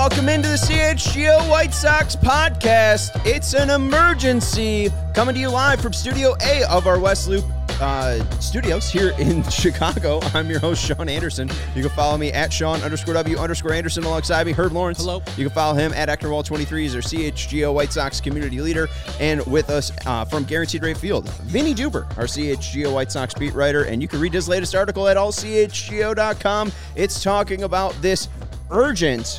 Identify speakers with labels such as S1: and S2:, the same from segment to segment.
S1: Welcome into the CHGO White Sox podcast. It's an emergency coming to you live from Studio A of our West Loop studios here in Chicago. I'm your host, Sean Anderson. You can follow me at Sean_W_Anderson alongside me, Herb Lawrence.
S2: Hello. You
S1: can follow him at Actorwall23. He's our CHGO White Sox community leader. And with us from Guaranteed Rate Field, Vinny Duber, our CHGO White Sox beat writer. And you can read his latest article at allchgo.com. It's talking about this urgent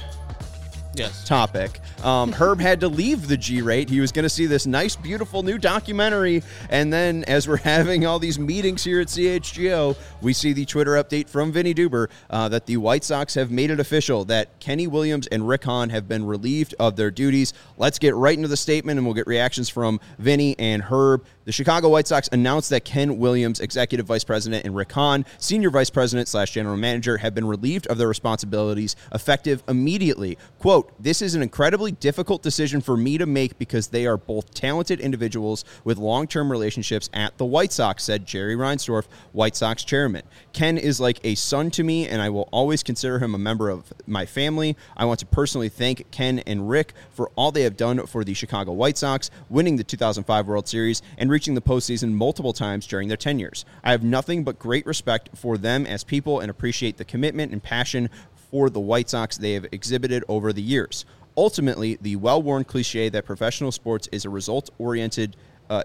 S1: topic. Herb had to leave the G-Rate. He was going to see this nice, beautiful new documentary. And then as we're having all these meetings here at CHGO, we see the Twitter update from Vinny Duber that the White Sox have made it official that Kenny Williams and Rick Hahn have been relieved of their duties. Let's get right into the statement, and we'll get reactions from Vinny and Herb. The Chicago White Sox announced that Ken Williams, Executive Vice President, and Rick Hahn, Senior Vice President / General Manager, have been relieved of their responsibilities effective immediately. Quote, "This is an incredibly difficult decision for me to make because they are both talented individuals with long-term relationships at the White Sox," said Jerry Reinsdorf, White Sox chairman. "Ken is like a son to me, and I will always consider him a member of my family. I want to personally thank Ken and Rick for all they have done for the Chicago White Sox, winning the 2005 World Series and reaching the postseason multiple times during their tenures. I have nothing but great respect for them as people and appreciate the commitment and passion for the White Sox they have exhibited over the years. Ultimately, the well-worn cliche that professional sports is results-oriented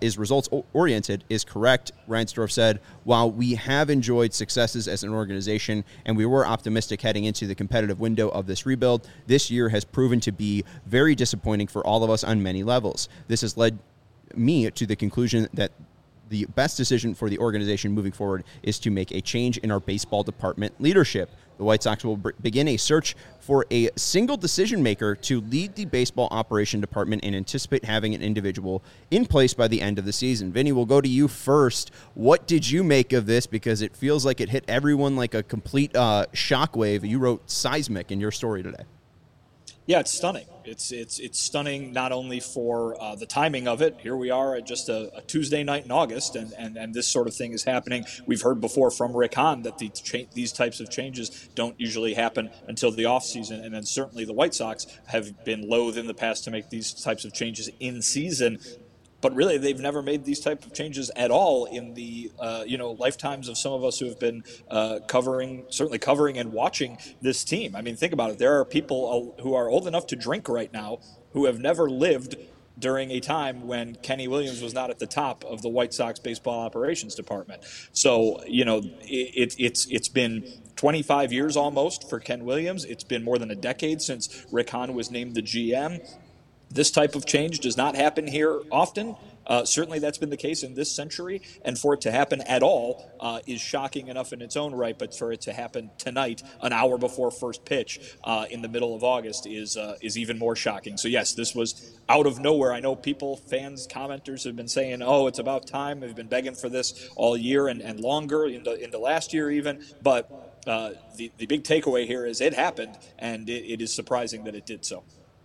S1: is correct," Reinsdorf said. "While we have enjoyed successes as an organization and we were optimistic heading into the competitive window of this rebuild, this year has proven to be very disappointing for all of us on many levels. This has led me to the conclusion that the best decision for the organization moving forward is to make a change in our baseball department leadership. The White Sox will begin a search for a single decision maker to lead the baseball operation department and anticipate having an individual in place by the end of the season." Vinny, we'll go to you first. What did you make of this? Because it feels like it hit everyone like a complete shockwave. You wrote seismic in your story today.
S3: Yeah, it's stunning. It's stunning not only for the timing of it. Here we are at just a Tuesday night in August, and this sort of thing is happening. We've heard before from Rick Hahn that these types of changes don't usually happen until the offseason, and then certainly the White Sox have been loath in the past to make these types of changes in season. But really, they've never made these type of changes at all in the lifetimes of some of us who have been covering and watching this team. I mean, think about it. There are people who are old enough to drink right now who have never lived during a time when Kenny Williams was not at the top of the White Sox baseball operations department. So, it's been 25 years almost for Ken Williams. It's been more than a decade since Rick Hahn was named the GM. This type of change does not happen here often. Certainly that's been the case in this century, and for it to happen at all is shocking enough in its own right, but for it to happen tonight, an hour before first pitch in the middle of August is even more shocking. So yes, this was out of nowhere. I know people, fans, commenters have been saying, oh, it's about time. They've been begging for this all year and longer, into last year even, but the big takeaway here is it happened, and it is surprising that it did so.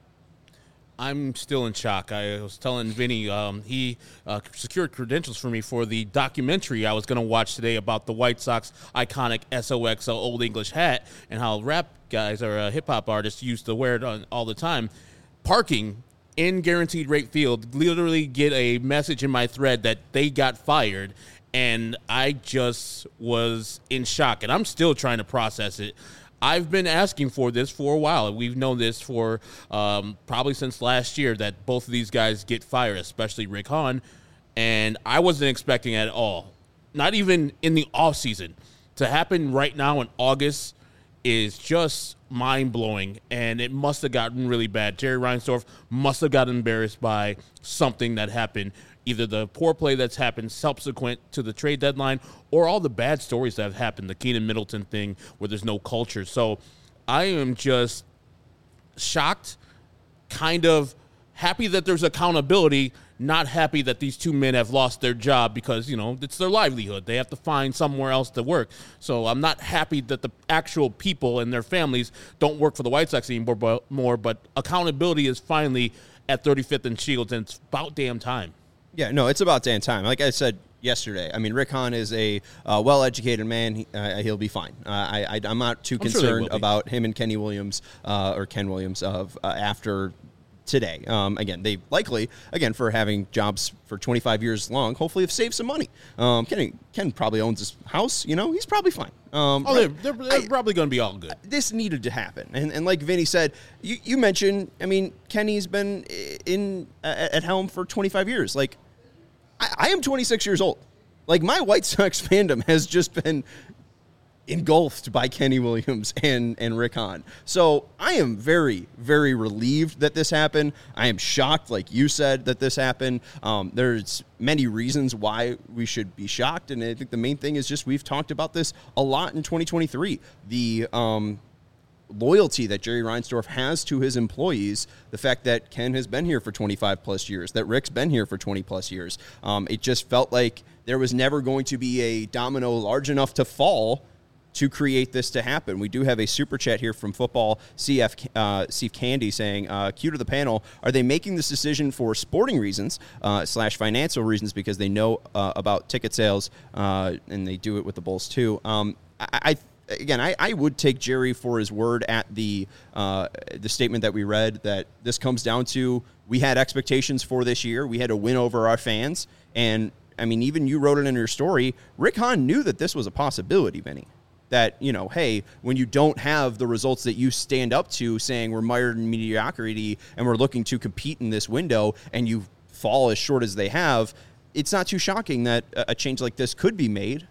S2: I'm still in shock. I was telling Vinny he secured credentials for me for the documentary I was going to watch today about the White Sox iconic SOXO Old English hat and how rap guys or hip-hop artists used to wear it all the time. Parking in Guaranteed Rate Field, literally get a message in my thread that they got fired, and I just was in shock, and I'm still trying to process it. I've been asking for this for a while. We've known this for probably since last year that both of these guys get fired, especially Rick Hahn, and I wasn't expecting it at all. Not even in the offseason. To happen right now in August is just mind-blowing, and it must have gotten really bad. Jerry Reinsdorf must have gotten embarrassed by something that happened, either the poor play that's happened subsequent to the trade deadline or all the bad stories that have happened, the Keenan Middleton thing where there's no culture. So I am just shocked, kind of happy that there's accountability, not happy that these two men have lost their job because, it's their livelihood. They have to find somewhere else to work. So I'm not happy that the actual people and their families don't work for the White Sox anymore, but accountability is finally at 35th and Shields, and it's about damn time.
S1: Yeah, no, it's about damn time. Like I said, yesterday. I mean, Rick Hahn is a well-educated man. He'll be fine. I'm not too concerned about him and Kenny Williams or Ken Williams after today. Again, they likely, for having jobs for 25 years long, hopefully have saved some money. Ken probably owns his house. He's probably fine.
S2: They're probably going to be all good.
S1: This needed to happen. And like Vinny said, you mentioned, Kenny's been at helm for 25 years. Like, I am 26 years old. Like, my White Sox fandom has just been engulfed by Kenny Williams and Rick Hahn. So I am very, very relieved that this happened. I am shocked, like you said, that this happened. There's many reasons why we should be shocked, and I think the main thing is just we've talked about this a lot in 2023. The loyalty that Jerry Reinsdorf has to his employees, the fact that Ken has been here for 25 plus years, that Rick's been here for 20 plus years. It just felt like there was never going to be a domino large enough to fall to create this to happen. We do have a super chat here from Football CF Steve Candy saying, cue to the panel, are they making this decision for sporting reasons / financial reasons because they know about ticket sales and they do it with the Bulls too? I would take Jerry for his word at the statement that we read, that this comes down to, we had expectations for this year. We had to win over our fans. And even you wrote it in your story, Rick Hahn knew that this was a possibility, Vinny. That, hey, when you don't have the results that you stand up to saying we're mired in mediocrity and we're looking to compete in this window and you fall as short as they have, it's not too shocking that a change like this could be made.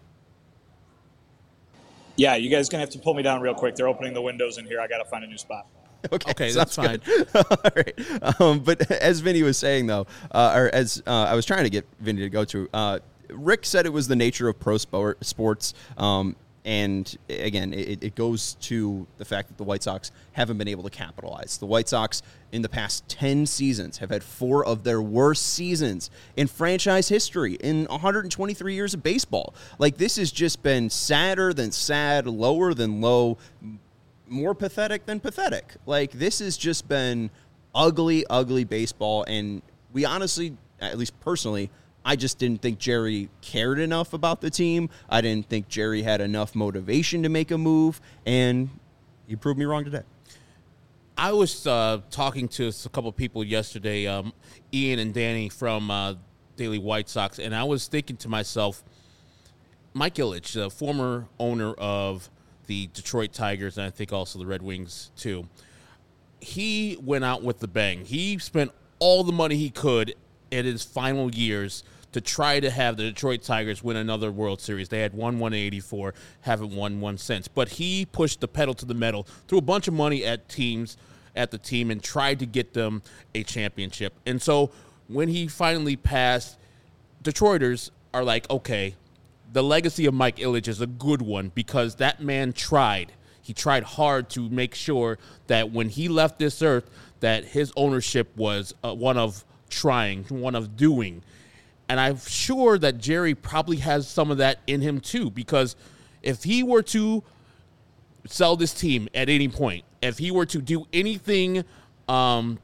S3: Yeah, you guys going to have to pull me down real quick. They're opening the windows in here. I got to find a new spot.
S1: Okay,
S2: that's fine.
S1: All right. But as Vinny was saying, though, or as I was trying to get Vinny to go to, Rick said it was the nature of pro sports. And again, it goes to the fact that the White Sox haven't been able to capitalize. The White Sox in the past 10 seasons have had 4 of their worst seasons in franchise history in 123 years of baseball. Like, this has just been sadder than sad, lower than low, more pathetic than pathetic. Like, this has just been ugly, ugly baseball. And we honestly, at least personally, I just didn't think Jerry cared enough about the team. I didn't think Jerry had enough motivation to make a move, and he proved me wrong today.
S2: I was talking to a couple of people yesterday, Ian and Danny from Daily White Sox, and I was thinking to myself, Mike Ilitch, the former owner of the Detroit Tigers, and I think also the Red Wings too, he went out with the bang. He spent all the money he could in his final years to try to have the Detroit Tigers win another World Series. They had won one in 84, haven't won one since. But he pushed the pedal to the metal, threw a bunch of money at the team, and tried to get them a championship. And so when he finally passed, Detroiters are like, okay, the legacy of Mike Ilitch is a good one because that man tried. He tried hard to make sure that when he left this earth, that his ownership was one of trying, one of doing. And I'm sure that Jerry probably has some of that in him too, because if he were to sell this team at any point, if he were to do anything, to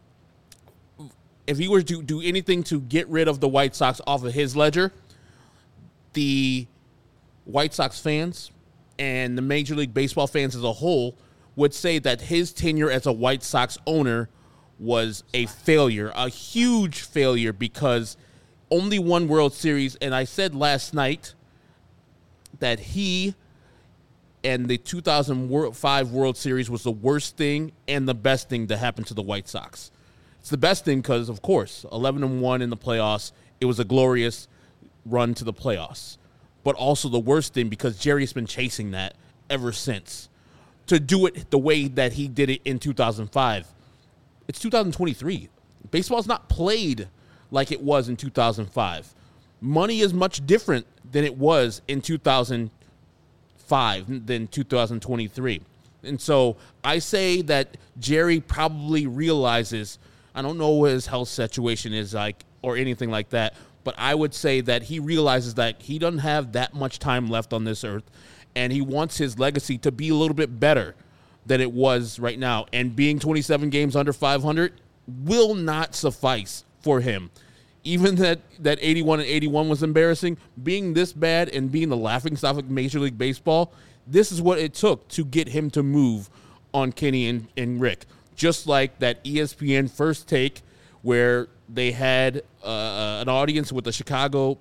S2: get rid of the White Sox off of his ledger, the White Sox fans and the Major League Baseball fans as a whole would say that his tenure as a White Sox owner was a failure, a huge failure, because only one World Series. And I said last night that he and the 2005 World Series was the worst thing and the best thing to happen to the White Sox. It's the best thing because, of course, 11-1 in the playoffs. It was a glorious run to the playoffs. But also the worst thing because Jerry's been chasing that ever since. To do it the way that he did it in 2005. It's 2023. Baseball's not played like it was in 2005. Money is much different than it was in 2005 than 2023. And so I say that Jerry probably realizes, I don't know what his health situation is like or anything like that, but I would say that he realizes that he doesn't have that much time left on this earth, and he wants his legacy to be a little bit better than it was right now. And being 27 games under 500 will not suffice for him. even that 81-81 was embarrassing, being this bad and being the laughingstock of Major League Baseball, this is what it took to get him to move on Kenny and Rick. Just like that ESPN First Take where they had an audience with the Chicago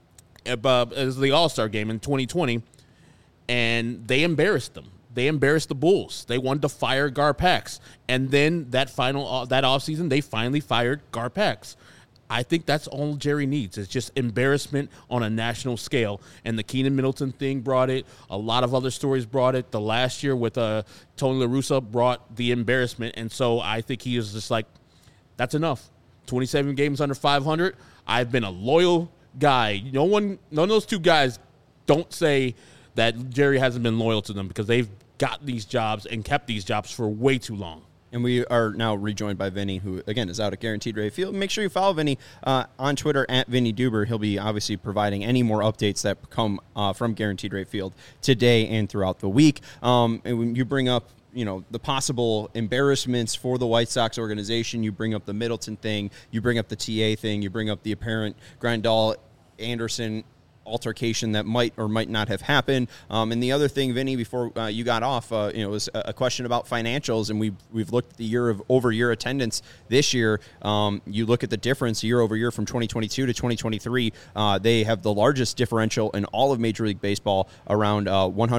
S2: as the All-Star game in 2020, and they embarrassed them. They embarrassed the Bulls. They wanted to fire Garpax. And then that offseason, they finally fired Garpax. I think that's all Jerry needs. It's just embarrassment on a national scale. And the Keenan Middleton thing brought it. A lot of other stories brought it. The last year with Tony La Russa brought the embarrassment. And so I think he is just like, that's enough. 27 games under 500. I've been a loyal guy. None of those two guys don't say that Jerry hasn't been loyal to them, because they've got these jobs and kept these jobs for way too long.
S1: And we are now rejoined by Vinny, who, again, is out at Guaranteed Rate Field. Make sure you follow Vinny on Twitter at Vinny Duber. He'll be obviously providing any more updates that come from Guaranteed Rate Field today and throughout the week. And when you bring up, the possible embarrassments for the White Sox organization, you bring up the Middleton thing, you bring up the TA thing, you bring up the apparent Grandal-Anderson altercation that might or might not have happened. And the other thing, Vinny, before you got off, was a question about financials, and we've looked at the year-over-year attendance this year. You look at the difference year over year from 2022 to 2023. They have the largest differential in all of Major League Baseball, around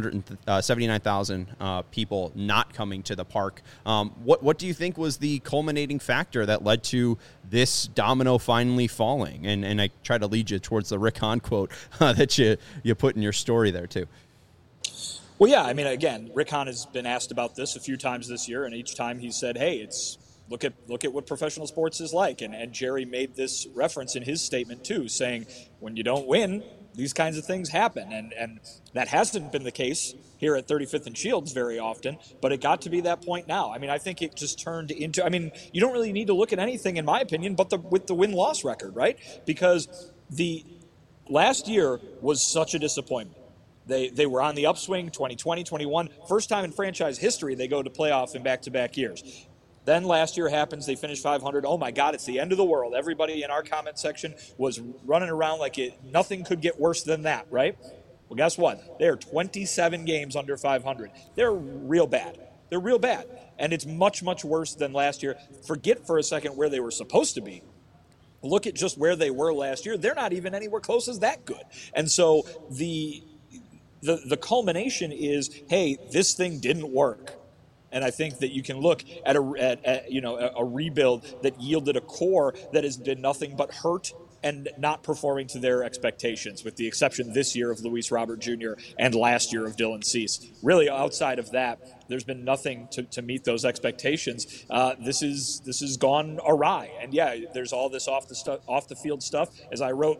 S1: 179,000 people not coming to the park. What do you think was the culminating factor that led to this domino finally falling? And I try to lead you towards the Rick Hahn quote that you put in your story there too.
S3: Well, yeah, I mean, again, Rick Hahn has been asked about this a few times this year, and each time he said, hey, look at what professional sports is like. And Jerry made this reference in his statement too, saying when you don't win, these kinds of things happen. And that hasn't been the case here at 35th and Shields very often, but it got to be that point now. I mean, I think it just turned into, you don't really need to look at anything, in my opinion, but with the win-loss record, right? Because the last year was such a disappointment. They were on the upswing, 2020, 21. First time in franchise history they go to playoff in back-to-back years. Then last year happens, they finish 500. Oh, my God, it's the end of the world. Everybody in our comment section was running around like nothing could get worse than that, right? Well, guess what? They're 27 games under 500. They're real bad. They're real bad. And it's much, much worse than last year. Forget for a second where they were supposed to be. Look at just where they were last year. They're not even anywhere close as that good. And so the culmination is, hey, this thing didn't work. And I think that you can look at a rebuild that yielded a core that has been nothing but hurt and not performing to their expectations, with the exception this year of Luis Robert Jr. and last year of Dylan Cease. Really, outside of that, there's been nothing to meet those expectations. This is gone awry. And yeah, there's all this off the field stuff. As I wrote,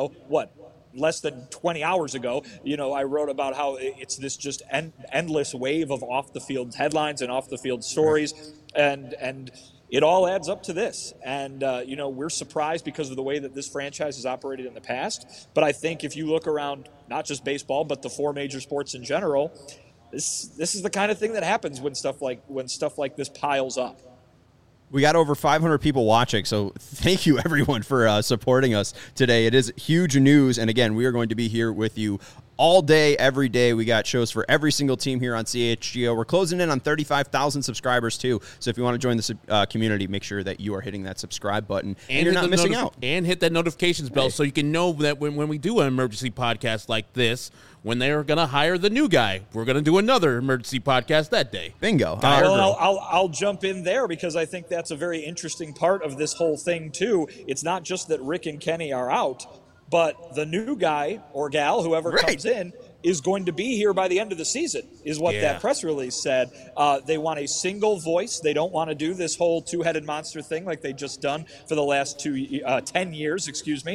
S3: less than 20 hours ago, I wrote about how it's this just endless wave of off the field headlines and off the field stories, and it all adds up to this. And, we're surprised because of the way that this franchise has operated in the past. But I think if you look around, not just baseball, but the four major sports in general, this is the kind of thing that happens when stuff like this piles up.
S1: We got over 500 people watching, so thank you, everyone, for supporting us today. It is huge news, and again, we are going to be here with you all day, every day. We got shows for every single team here on CHGO. We're closing in on 35,000 subscribers, too, so if you want to join the community, make sure that you are hitting that subscribe button, and you're not missing out.
S2: And hit that notifications bell so you can know that when we do an emergency podcast like this, when they're going to hire the new guy, we're going to do another emergency podcast that day.
S1: Bingo.
S3: Well, I'll jump in there because I think that's a very interesting part of this whole thing, too. It's not just that Rick and Kenny are out, but the new guy or gal, whoever comes in, is going to be here by the end of the season, is what that press release said. They want a single voice. They don't want to do this whole two-headed monster thing like they've just done for the last 10 years,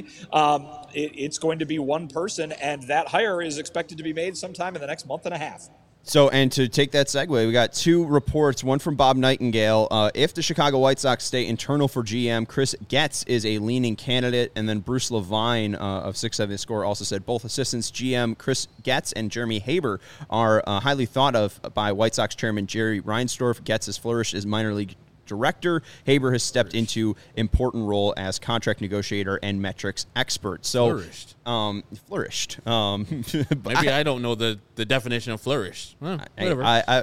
S3: It's going to be one person, and that hire is expected to be made sometime in the next month and a half.
S1: So, and to take that segue, we got two reports, one from Bob Nightingale. If the Chicago White Sox stay internal for GM, Chris Getz is a leaning candidate. And then Bruce Levine of 670 Score also said both assistants, GM Chris Getz and Jeremy Haber, are highly thought of by White Sox chairman Jerry Reinsdorf. Getz has flourished as minor league director. Haber has stepped into important role as contract negotiator and metrics expert. So flourished.
S2: Maybe I don't know the definition of flourished. Whatever.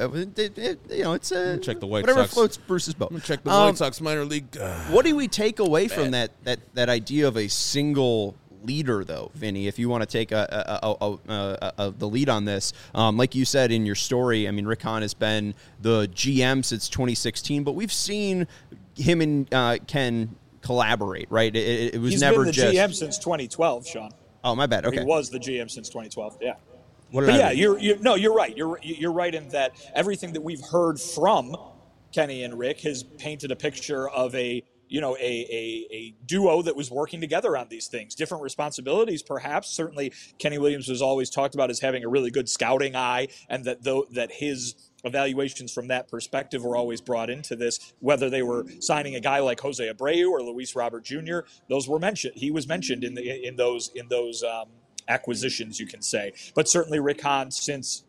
S1: It's a
S2: check the White
S1: whatever
S2: Sox.
S1: floats Bruce's boat.
S2: I'm gonna check the White Sox minor league.
S1: What do we take away from that idea of a single leader, though, Vinny? If you want to take the lead on this, like you said in your story, I mean, Rick Hahn has been the GM since 2016, but we've seen him and Ken collaborate, right? It was
S3: He's
S1: never
S3: been the GM since 2012, Sean.
S1: Oh, my bad. Okay,
S3: he was the GM since 2012. Yeah.
S1: You're
S3: right. You're right in that everything that we've heard from Kenny and Rick has painted a picture of a duo that was working together on these things. Different responsibilities, perhaps. Certainly, Kenny Williams was always talked about as having a really good scouting eye, and that his evaluations from that perspective were always brought into this. Whether they were signing a guy like Jose Abreu or Luis Robert Jr., those were mentioned. He was mentioned in those acquisitions, you can say. But certainly Rick Hahn, since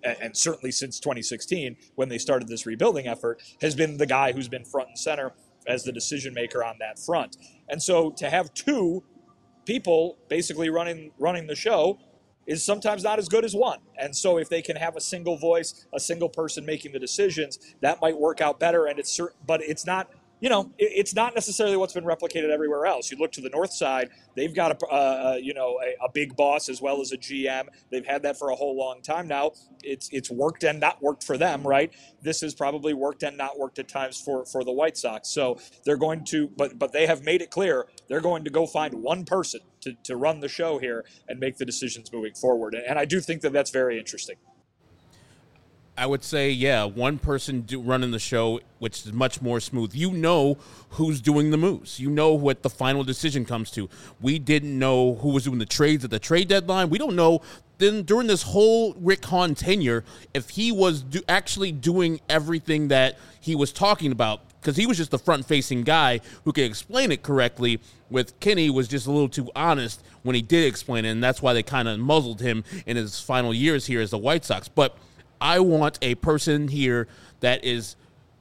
S3: 2016, when they started this rebuilding effort, has been the guy who's been front and center as the decision maker on that front. And so to have two people basically running the show is sometimes not as good as one. And so if they can have a single voice, a single person making the decisions, that might work out better. And but it's not, it's not necessarily what's been replicated everywhere else. You look to the north side, they've got a big boss as well as a GM. They've had that for a whole long time now. It's worked and not worked for them, right? This has probably worked and not worked at times for the White Sox. So they're going to, but they have made it clear they're going to go find one person to run the show here and make the decisions moving forward. And I do think that that's very interesting.
S2: I would say, one person running the show, which is much more smooth. You know who's doing the moves. You know what the final decision comes to. We didn't know who was doing the trades at the trade deadline. We don't know then during this whole Rick Hahn tenure if he was actually doing everything that he was talking about, because he was just the front-facing guy who could explain it correctly. With Kenny was just a little too honest when he did explain it, and that's why they kind of muzzled him in his final years here as the White Sox. But I want a person here that is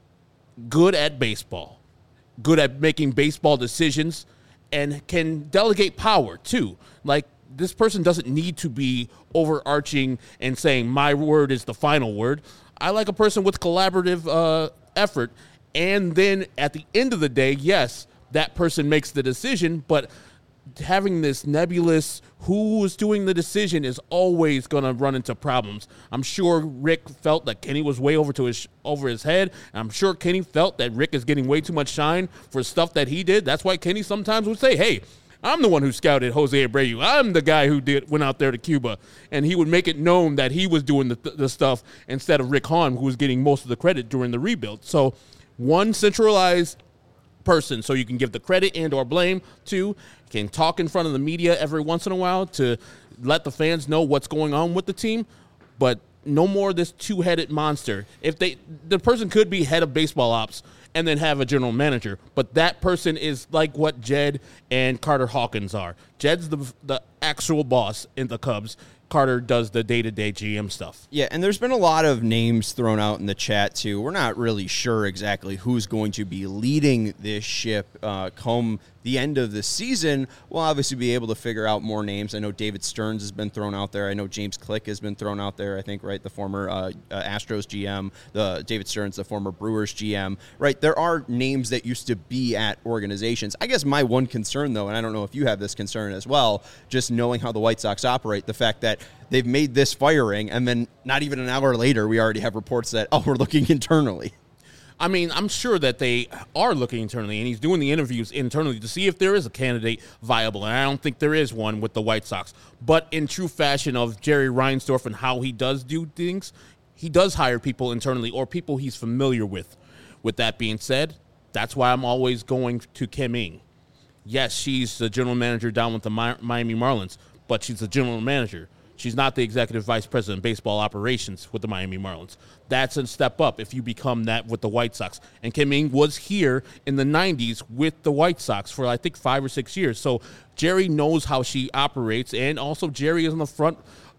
S2: good at baseball, good at making baseball decisions, and can delegate power too. Like, this person doesn't need to be overarching and saying my word is the final word. I like a person with collaborative effort. And then at the end of the day, yes, that person makes the decision, but having this nebulous who is doing the decision is always going to run into problems. I'm sure Rick felt that Kenny was way over his head. And I'm sure Kenny felt that Rick is getting way too much shine for stuff that he did. That's why Kenny sometimes would say, hey, I'm the one who scouted Jose Abreu. I'm the guy who went out there to Cuba. And he would make it known that he was doing the stuff instead of Rick Hahn, who was getting most of the credit during the rebuild. So one centralized person, so you can give the credit and or blame to, can talk in front of the media every once in a while to let the fans know what's going on with the team, but no more of this two-headed monster. If the person could be head of baseball ops and then have a general manager, but that person is like what Jed and Carter Hawkins are. Jed's the actual boss in the Cubs. Carter does the day-to-day GM stuff.
S1: Yeah, and there's been a lot of names thrown out in the chat, too. We're not really sure exactly who's going to be leading this ship come the end of the season. We'll obviously be able to figure out more names. I know David Stearns has been thrown out there. I know James Click has been thrown out there, I think, right? The former Astros GM, David Stearns, the former Brewers GM, right? There are names that used to be at organizations. I guess my one concern, though, and I don't know if you have this concern as well, just knowing how the White Sox operate, the fact that they've made this firing, and then not even an hour later, we already have reports that, we're looking internally.
S2: I mean, I'm sure that they are looking internally, and he's doing the interviews internally to see if there is a candidate viable, and I don't think there is one with the White Sox. But in true fashion of Jerry Reinsdorf and how he does do things, he does hire people internally or people he's familiar with. With that being said, that's why I'm always going to Kim Ng. Yes, she's the general manager down with the Miami Marlins, but she's the general manager. She's not the executive vice president of baseball operations with the Miami Marlins. That's a step up if you become that with the White Sox. And Kim Ng was here in the 90s with the White Sox for, I think, 5 or 6 years. So Jerry knows how she operates, and also Jerry is on the front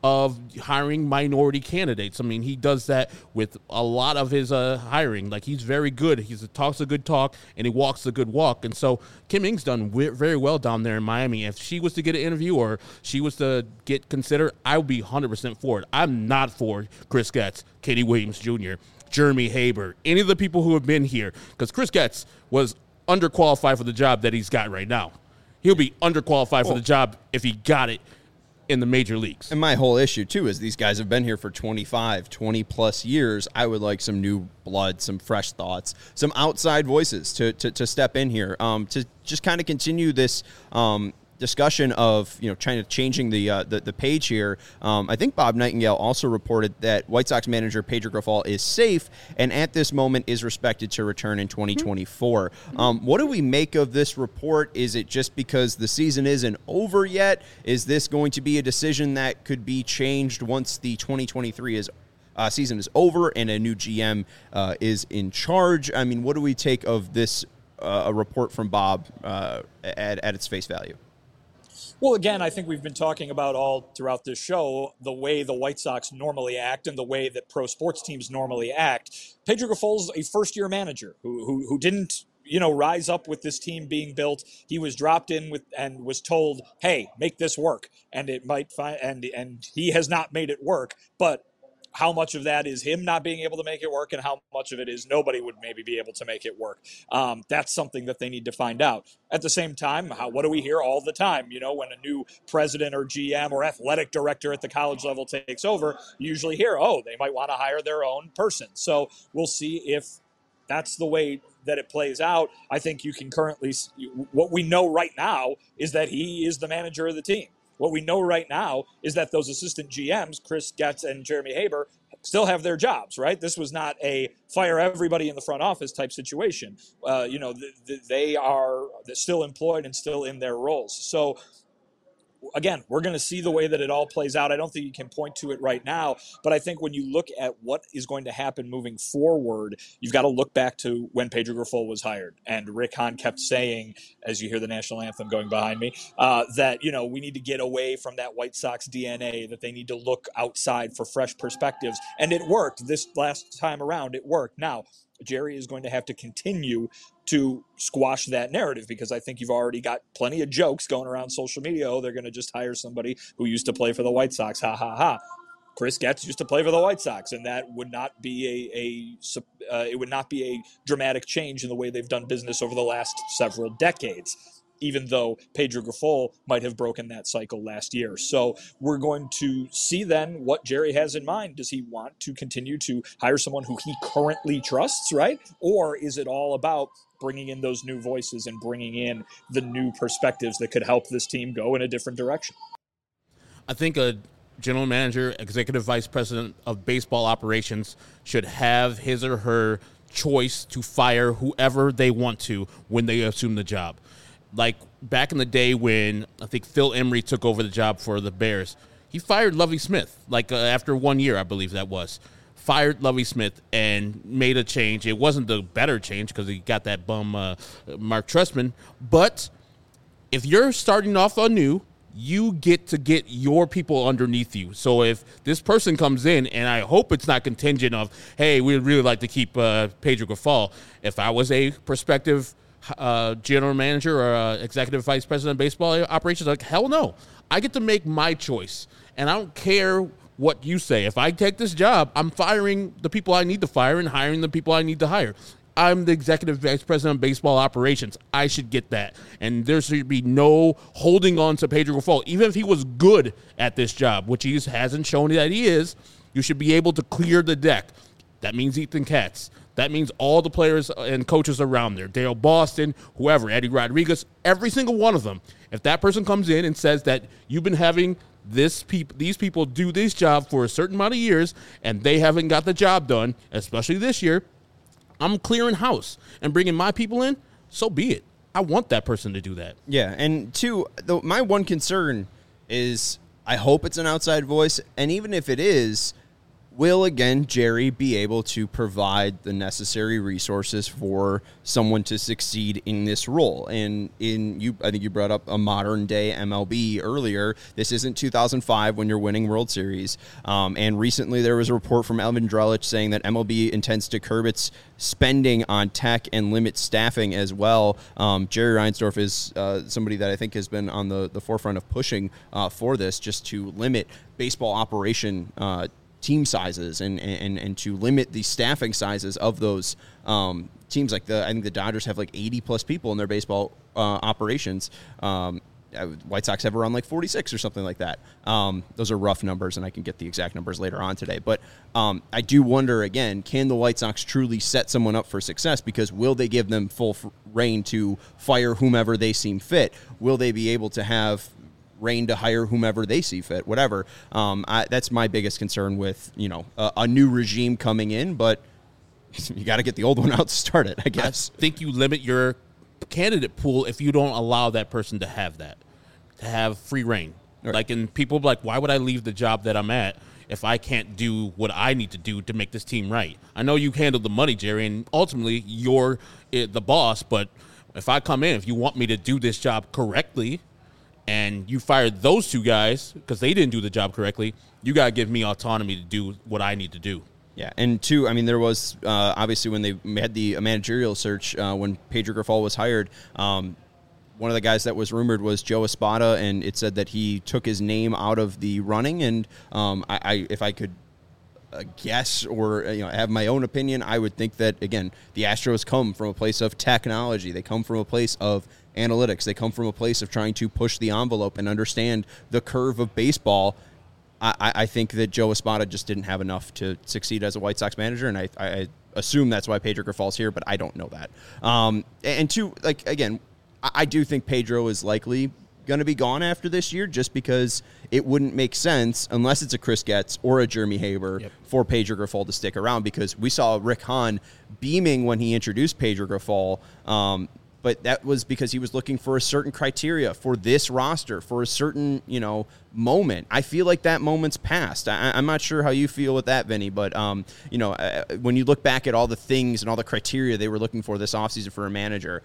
S2: of hiring minority candidates. I mean, he does that with a lot of his hiring. Like, he's very good. He talks a good talk, and he walks a good walk. And so Kim Ng's done very well down there in Miami. If she was to get an interview or she was to get considered, I would be 100% for it. I'm not for Chris Getz, Katie Williams Jr., Jeremy Haber, any of the people who have been here, because Chris Getz was underqualified for the job that he's got right now. He'll be underqualified for the job if he got it in the major leagues.
S1: And my whole issue, too, is these guys have been here for 20-plus years. I would like some new blood, some fresh thoughts, some outside voices to step in here, to just kind of continue this discussion of, changing the page here. I think Bob Nightingale also reported that White Sox manager Pedro Grifol is safe and at this moment is expected to return in 2024. What do we make of this report? Is it just because the season isn't over yet? Is this going to be a decision that could be changed once the 2023 season is over and a new GM is in charge? I mean, what do we take of this a report from Bob at its face value?
S3: Well, again, I think we've been talking about all throughout this show the way the White Sox normally act and the way that pro sports teams normally act. Pedro Grifol's a first-year manager who didn't, rise up with this team being built. He was dropped in with and was told, "Hey, make this work," and it might and he has not made it work, but how much of that is him not being able to make it work and how much of it is nobody would maybe be able to make it work? That's something that they need to find out. At the same time, what do we hear all the time? When a new president or GM or athletic director at the college level takes over, you usually hear, they might want to hire their own person. So we'll see if that's the way that it plays out. I think you can currently, what we know right now is that he is the manager of the team. What we know right now is that those assistant GMs, Chris Getz and Jeremy Haber, still have their jobs, right? This was not a fire everybody in the front office type situation. They are still employed and still in their roles. So, again, we're going to see the way that it all plays out. I don't think you can point to it right now, but I think when you look at what is going to happen moving forward, you've got to look back to when Pedro Grifol was hired. And Rick Hahn kept saying, as you hear the national anthem going behind me, that, we need to get away from that White Sox DNA, that they need to look outside for fresh perspectives. And it worked. This last time around, it worked. Now, Jerry is going to have to continue to squash that narrative because I think you've already got plenty of jokes going around social media. Oh, they're going to just hire somebody who used to play for the White Sox. Ha, ha, ha. Chris Getz used to play for the White Sox, and that would not be it would not be a dramatic change in the way they've done business over the last several decades, even though Pedro Grifol might have broken that cycle last year. So we're going to see then what Jerry has in mind. Does he want to continue to hire someone who he currently trusts, right? Or is it all about bringing in those new voices and bringing in the new perspectives that could help this team go in a different direction?
S2: I think a general manager, executive vice president of baseball operations should have his or her choice to fire whoever they want to when they assume the job. Like back in the day when I think Phil Emery took over the job for the Bears, he fired Lovie Smith, after 1 year, I believe that was. Fired Lovie Smith and made a change. It wasn't the better change because he got that bum Mark Trestman. But if you're starting off anew, you get to get your people underneath you. So if this person comes in, and I hope it's not contingent of, hey, we'd really like to keep Pedro Grifol. If I was a prospective general manager or executive vice president of baseball operations, like, hell no. I get to make my choice, and I don't care what you say. If I take this job, I'm firing the people I need to fire and hiring the people I need to hire. I'm the executive vice president of baseball operations. I should get that. And there should be no holding on to Pedro Grifol. Even if he was good at this job, which he hasn't shown that he is, you should be able to clear the deck. That means Ethan Katz. That means all the players and coaches around there, Dale Boston, whoever, Eddie Rodriguez, every single one of them. If that person comes in and says that you've been having these people do this job for a certain amount of years and they haven't got the job done, especially this year, I'm clearing house and bringing my people in, so be it. I want that person to do that.
S1: Yeah, and two, my one concern is I hope it's an outside voice, and even if it is, will, again, Jerry be able to provide the necessary resources for someone to succeed in this role? And I think you brought up a modern day MLB earlier. This isn't 2005 when you're winning World Series. And recently there was a report from Elvin Drellich saying that MLB intends to curb its spending on tech and limit staffing as well. Jerry Reinsdorf is somebody that I think has been on the forefront of pushing for this, just to limit baseball operation team sizes and to limit the staffing sizes of those teams. Like I think the Dodgers have like 80 plus people in their baseball operations. White Sox have around like 46 or something like that. Those are rough numbers, and I can get the exact numbers later on today. But I do wonder, again, can the White Sox truly set someone up for success? Because will they give them full reign to fire whomever they seem fit? Will they be able to have reign to hire whomever they see fit, whatever? That's my biggest concern with, a new regime coming in, but you got to get the old one out to start it, I guess.
S2: I think you limit your candidate pool if you don't allow that person to have free reign. Right. Like, and people be like, why would I leave the job that I'm at if I can't do what I need to do to make this team right? I know you handle the money, Jerry, and ultimately you're the boss, but if I come in, if you want me to do this job correctly, and you fired those two guys because they didn't do the job correctly, you got to give me autonomy to do what I need to do.
S1: Yeah, and two, I mean, there was obviously when they had the managerial search, when Pedro Grifol was hired, one of the guys that was rumored was Joe Espada, and it said that he took his name out of the running. And if I could guess or have my own opinion, I would think that, again, the Astros come from a place of technology. They come from a place of analytics. They come from a place of trying to push the envelope and understand the curve of baseball. I think that Joe Espada just didn't have enough to succeed as a White Sox manager, and I assume that's why Pedro Grifol's here, but I don't know that. And two, like, again, I do think Pedro is likely going to be gone after this year, just because it wouldn't make sense, unless it's a Chris Getz or a Jeremy Haber, for Pedro Grifol to stick around, because we saw Rick Hahn beaming when he introduced Pedro Grifol, but that was because he was looking for a certain criteria for this roster, for a certain, moment. I feel like that moment's passed. I'm not sure how you feel with that, Vinny, but, when you look back at all the things and all the criteria they were looking for this offseason for a manager,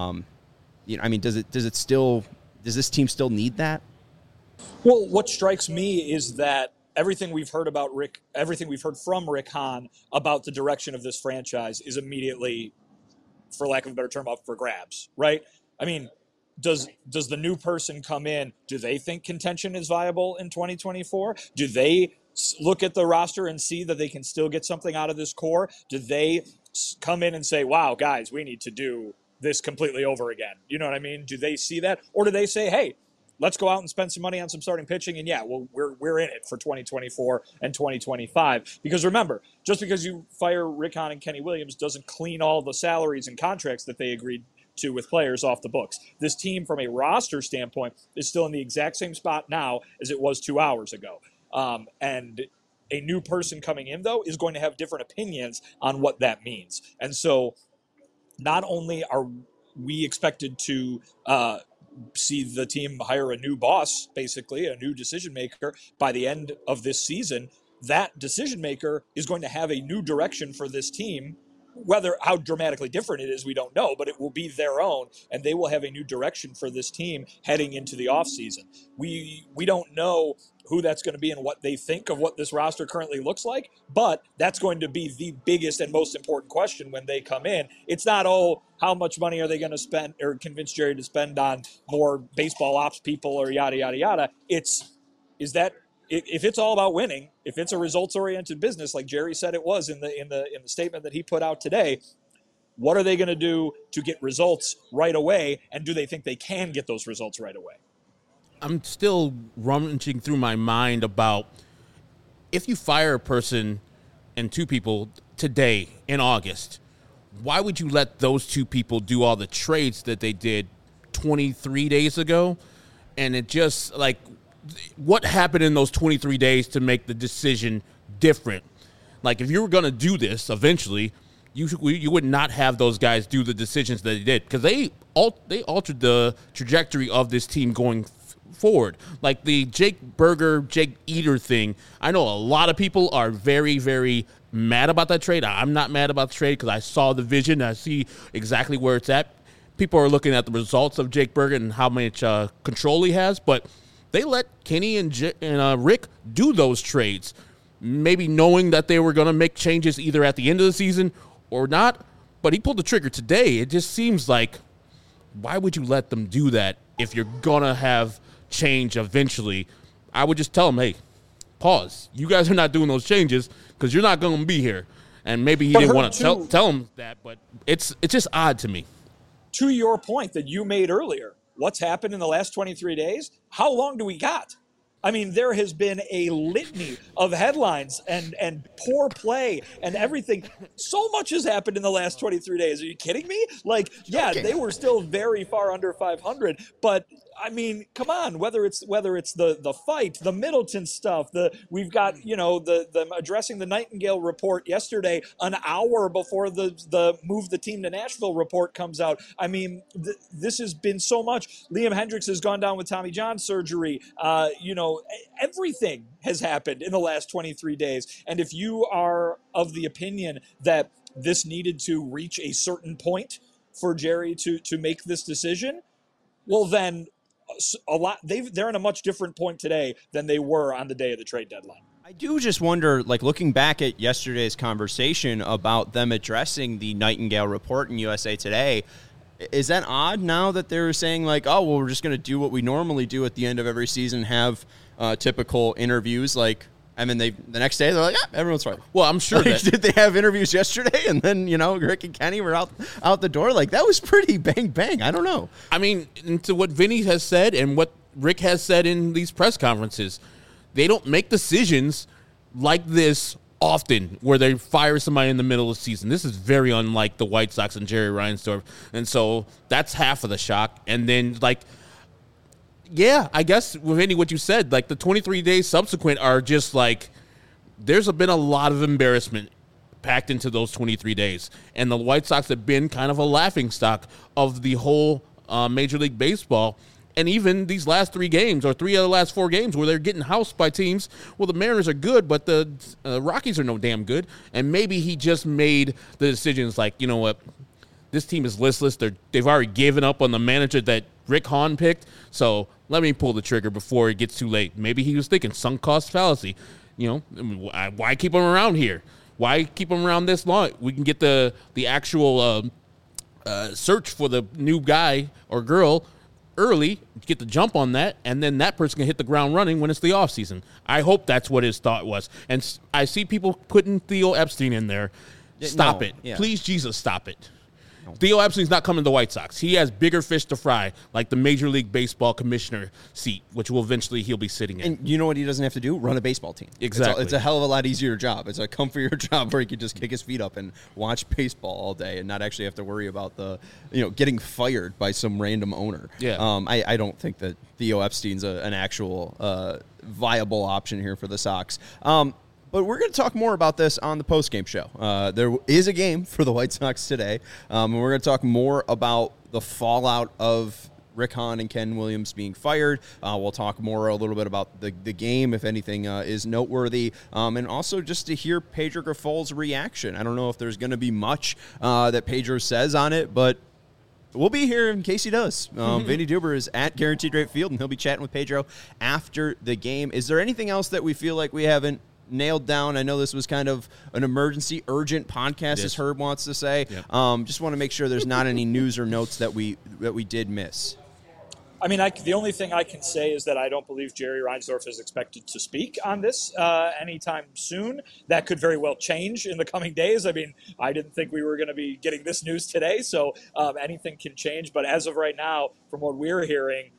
S1: does this team still need that?
S3: Well, what strikes me is that everything we've heard from Rick Hahn about the direction of this franchise is immediately, for lack of a better term, up for grabs, right? I mean, does the new person come in, do they think contention is viable in 2024? Do they look at the roster and see that they can still get something out of this core? Do they come in and say, wow, guys, we need to do this completely over again? You know what I mean? Do they see that? Or do they say, hey, let's go out and spend some money on some starting pitching, and we're in it for 2024 and 2025. Because remember, just because you fire Rick Hahn and Kenny Williams doesn't clean all the salaries and contracts that they agreed to with players off the books. This team, from a roster standpoint, is still in the exact same spot now as it was 2 hours ago. And a new person coming in, though, is going to have different opinions on what that means. And so not only are we expected to see the team hire a new boss, basically, a new decision maker by the end of this season, that decision maker is going to have a new direction for this team. How dramatically different it is, we don't know, but it will be their own, and they will have a new direction for this team heading into the offseason. We don't know who that's going to be and what they think of what this roster currently looks like, but that's going to be the biggest and most important question when they come in. It's not, how much money are they going to spend or convince Jerry to spend on more baseball ops people or yada, yada, yada. If it's all about winning, if it's a results-oriented business, like Jerry said it was in the statement that he put out today, what are they going to do to get results right away, and do they think they can get those results right away?
S2: I'm still rummaging through my mind about, if you fire a person and two people today in August, why would you let those two people do all the trades that they did 23 days ago? And it just, like, what happened in those 23 days to make the decision different? Like, if you were going to do this eventually, you would not have those guys do the decisions that they did, because they altered the trajectory of this team going forward. Like the Jake Burger, Jake Eater thing, I know a lot of people are very, very mad about that trade. I'm not mad about the trade because I saw the vision. I see exactly where it's at. People are looking at the results of Jake Burger and how much control he has, but they let Kenny and Rick do those trades, maybe knowing that they were going to make changes either at the end of the season or not, but he pulled the trigger today. It just seems like, why would you let them do that if you're going to have change eventually? I would just tell them, hey, pause. You guys are not doing those changes because you're not going to be here. And maybe he didn't want to tell him that, but it's just odd to me.
S3: To your point that you made earlier, what's happened in the last 23 days? How long do we got? I mean, there has been a litany of headlines and poor play and everything. So much has happened in the last 23 days. Are you kidding me? Like, yeah, they were still very far under 500, but I mean, come on. Whether it's the fight, the Middleton stuff, we've got the addressing the Nightingale report yesterday, an hour before the move the team to Nashville report comes out. I mean, this has been so much. Liam Hendriks has gone down with Tommy John surgery. Everything has happened in the last 23 days. And if you are of the opinion that this needed to reach a certain point for Jerry to make this decision, well then. They're in a much different point today than they were on the day of the trade deadline.
S1: I do just wonder, like looking back at yesterday's conversation about them addressing the Nightingale report in USA Today, is that odd now that they're saying like, oh, well, we're just going to do what we normally do at the end of every season, have typical interviews like, I mean, the next day they're like, everyone's fine.
S2: Well, I'm sure
S1: did they have interviews yesterday and then, Rick and Kenny were out the door? Like, that was pretty bang. I don't know.
S2: I mean, to what Vinny has said and what Rick has said in these press conferences, they don't make decisions like this often where they fire somebody in the middle of the season. This is very unlike the White Sox and Jerry Reinsdorf. And so that's half of the shock. And then, yeah, I guess with any what you said, like the 23 days subsequent are just like there's been a lot of embarrassment packed into those 23 days. And the White Sox have been kind of a laughingstock of the whole Major League Baseball. And even these last 3 games or 3 of the last 4 games where they're getting housed by teams, well, the Mariners are good, but the Rockies are no damn good. And maybe he just made the decisions like, you know what, this team is listless. They've already given up on the manager that Rick Hahn picked, so let me pull the trigger before it gets too late. Maybe he was thinking sunk cost fallacy. Why keep him around here? Why keep him around this long? We can get the actual search for the new guy or girl early, get the jump on that, and then that person can hit the ground running when it's the offseason. I hope that's what his thought was. And I see people putting Theo Epstein in there. Stop it. Yeah. Please, Jesus, stop it. Theo Epstein's not coming to the White Sox. He has bigger fish to fry, like the Major League Baseball commissioner seat, which will eventually he'll be sitting in.
S1: And you know what he doesn't have to do? Run a baseball team.
S2: Exactly.
S1: It's a hell of a lot easier job. It's a comfier job where he could just kick his feet up and watch baseball all day and not actually have to worry about getting fired by some random owner.
S2: Yeah.
S1: I don't think that Theo Epstein's an actual viable option here for the Sox. But we're going to talk more about this on the postgame show. There is a game for the White Sox today, and we're going to talk more about the fallout of Rick Hahn and Ken Williams being fired. We'll talk more a little bit about the game, if anything is noteworthy, and also just to hear Pedro Grifol's reaction. I don't know if there's going to be much that Pedro says on it, but we'll be here in case he does. Vinny Duber is at Guaranteed Rate Field, and he'll be chatting with Pedro after the game. Is there anything else that we feel like we haven't nailed down? I know this was kind of an emergency, urgent podcast, as Herb wants to say. Yep. Just want to make sure there's not any news or notes that we did miss.
S3: I mean, the only thing I can say is that I don't believe Jerry Reinsdorf is expected to speak on this anytime soon. That could very well change in the coming days. I mean, I didn't think we were going to be getting this news today, so anything can change. But as of right now, from what we're hearing,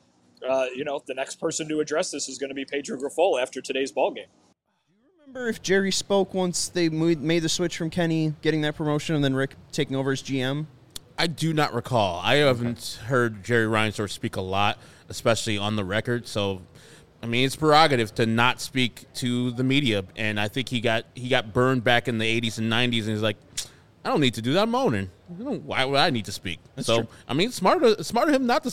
S3: the next person to address this is going to be Pedro Grifol after today's ballgame.
S1: Remember if Jerry spoke once they made the switch from Kenny getting that promotion and then Rick taking over as GM?
S2: I do not recall. I haven't heard Jerry Reinsdorf speak a lot, especially on the record. So, I mean, it's prerogative to not speak to the media. And I think he got burned back in the 80s and 90s, and he's like, I don't need to do that. I'm owning. Why would I need to speak?
S1: That's
S2: so,
S1: true.
S2: I mean, it's smart of him not to speak.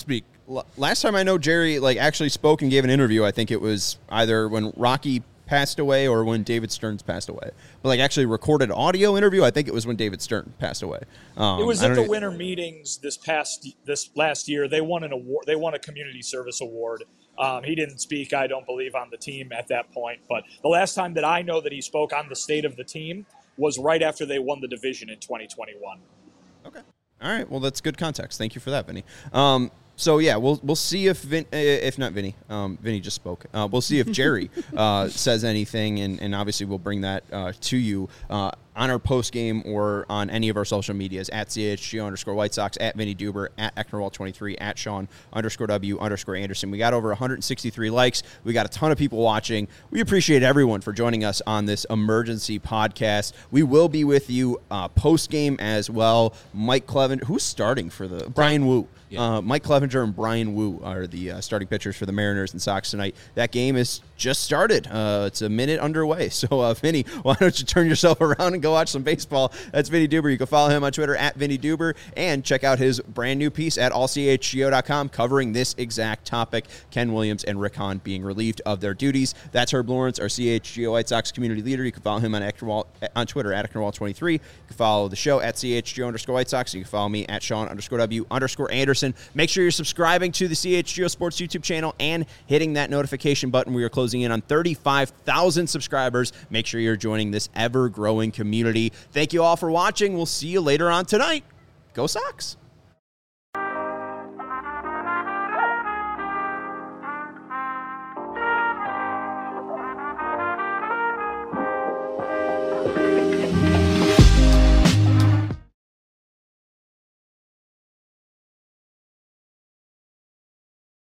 S1: last time I know Jerry actually spoke and gave an interview, I think it was either when Rocky passed away or when David Stearns passed away. But actually recorded audio interview, I think it was when David Stern passed away.
S3: It was at the winter meetings this last year. They won an award. They won a community service award. He didn't speak, I don't believe, on the team at that point. But the last time that I know that he spoke on the state of the team was right after they won the division in 2021. Okay.
S1: All right. Well, that's good context. Thank you for that, Vinny. So yeah, we'll see if not Vinny, Vinny just spoke. We'll see if Jerry says anything, and obviously we'll bring that to you on our post game or on any of our social medias at CHGO_White Sox, at Vinny Duber, at Ecknerwall23, at Sean_W_Anderson. We got over 163 likes. We got a ton of people watching. We appreciate everyone for joining us on this emergency podcast. We will be with you post game as well. Mike Clevenger, who's starting for the Brian Wu. Yeah. Mike Clevenger and Brian Wu are the starting pitchers for the Mariners and Sox tonight. That game is just started. It's a minute underway. So, Vinny, why don't you turn yourself around and go watch some baseball? That's Vinny Duber. You can follow him on Twitter at Vinny Duber and check out his brand new piece at allchgo.com covering this exact topic, Ken Williams and Rick Hahn being relieved of their duties. That's Herb Lawrence, our CHGO White Sox community leader. You can follow him on Twitter at Ecknerwall23. You can follow the show at CHGO_White Sox. You can follow me at Sean_W_Anderson. Make sure you're subscribing to the CHGO Sports YouTube channel and hitting that notification button. We are closing in on 35,000 subscribers. Make sure you're joining this ever-growing community. Thank you all for watching. We'll see you later on tonight. Go Sox!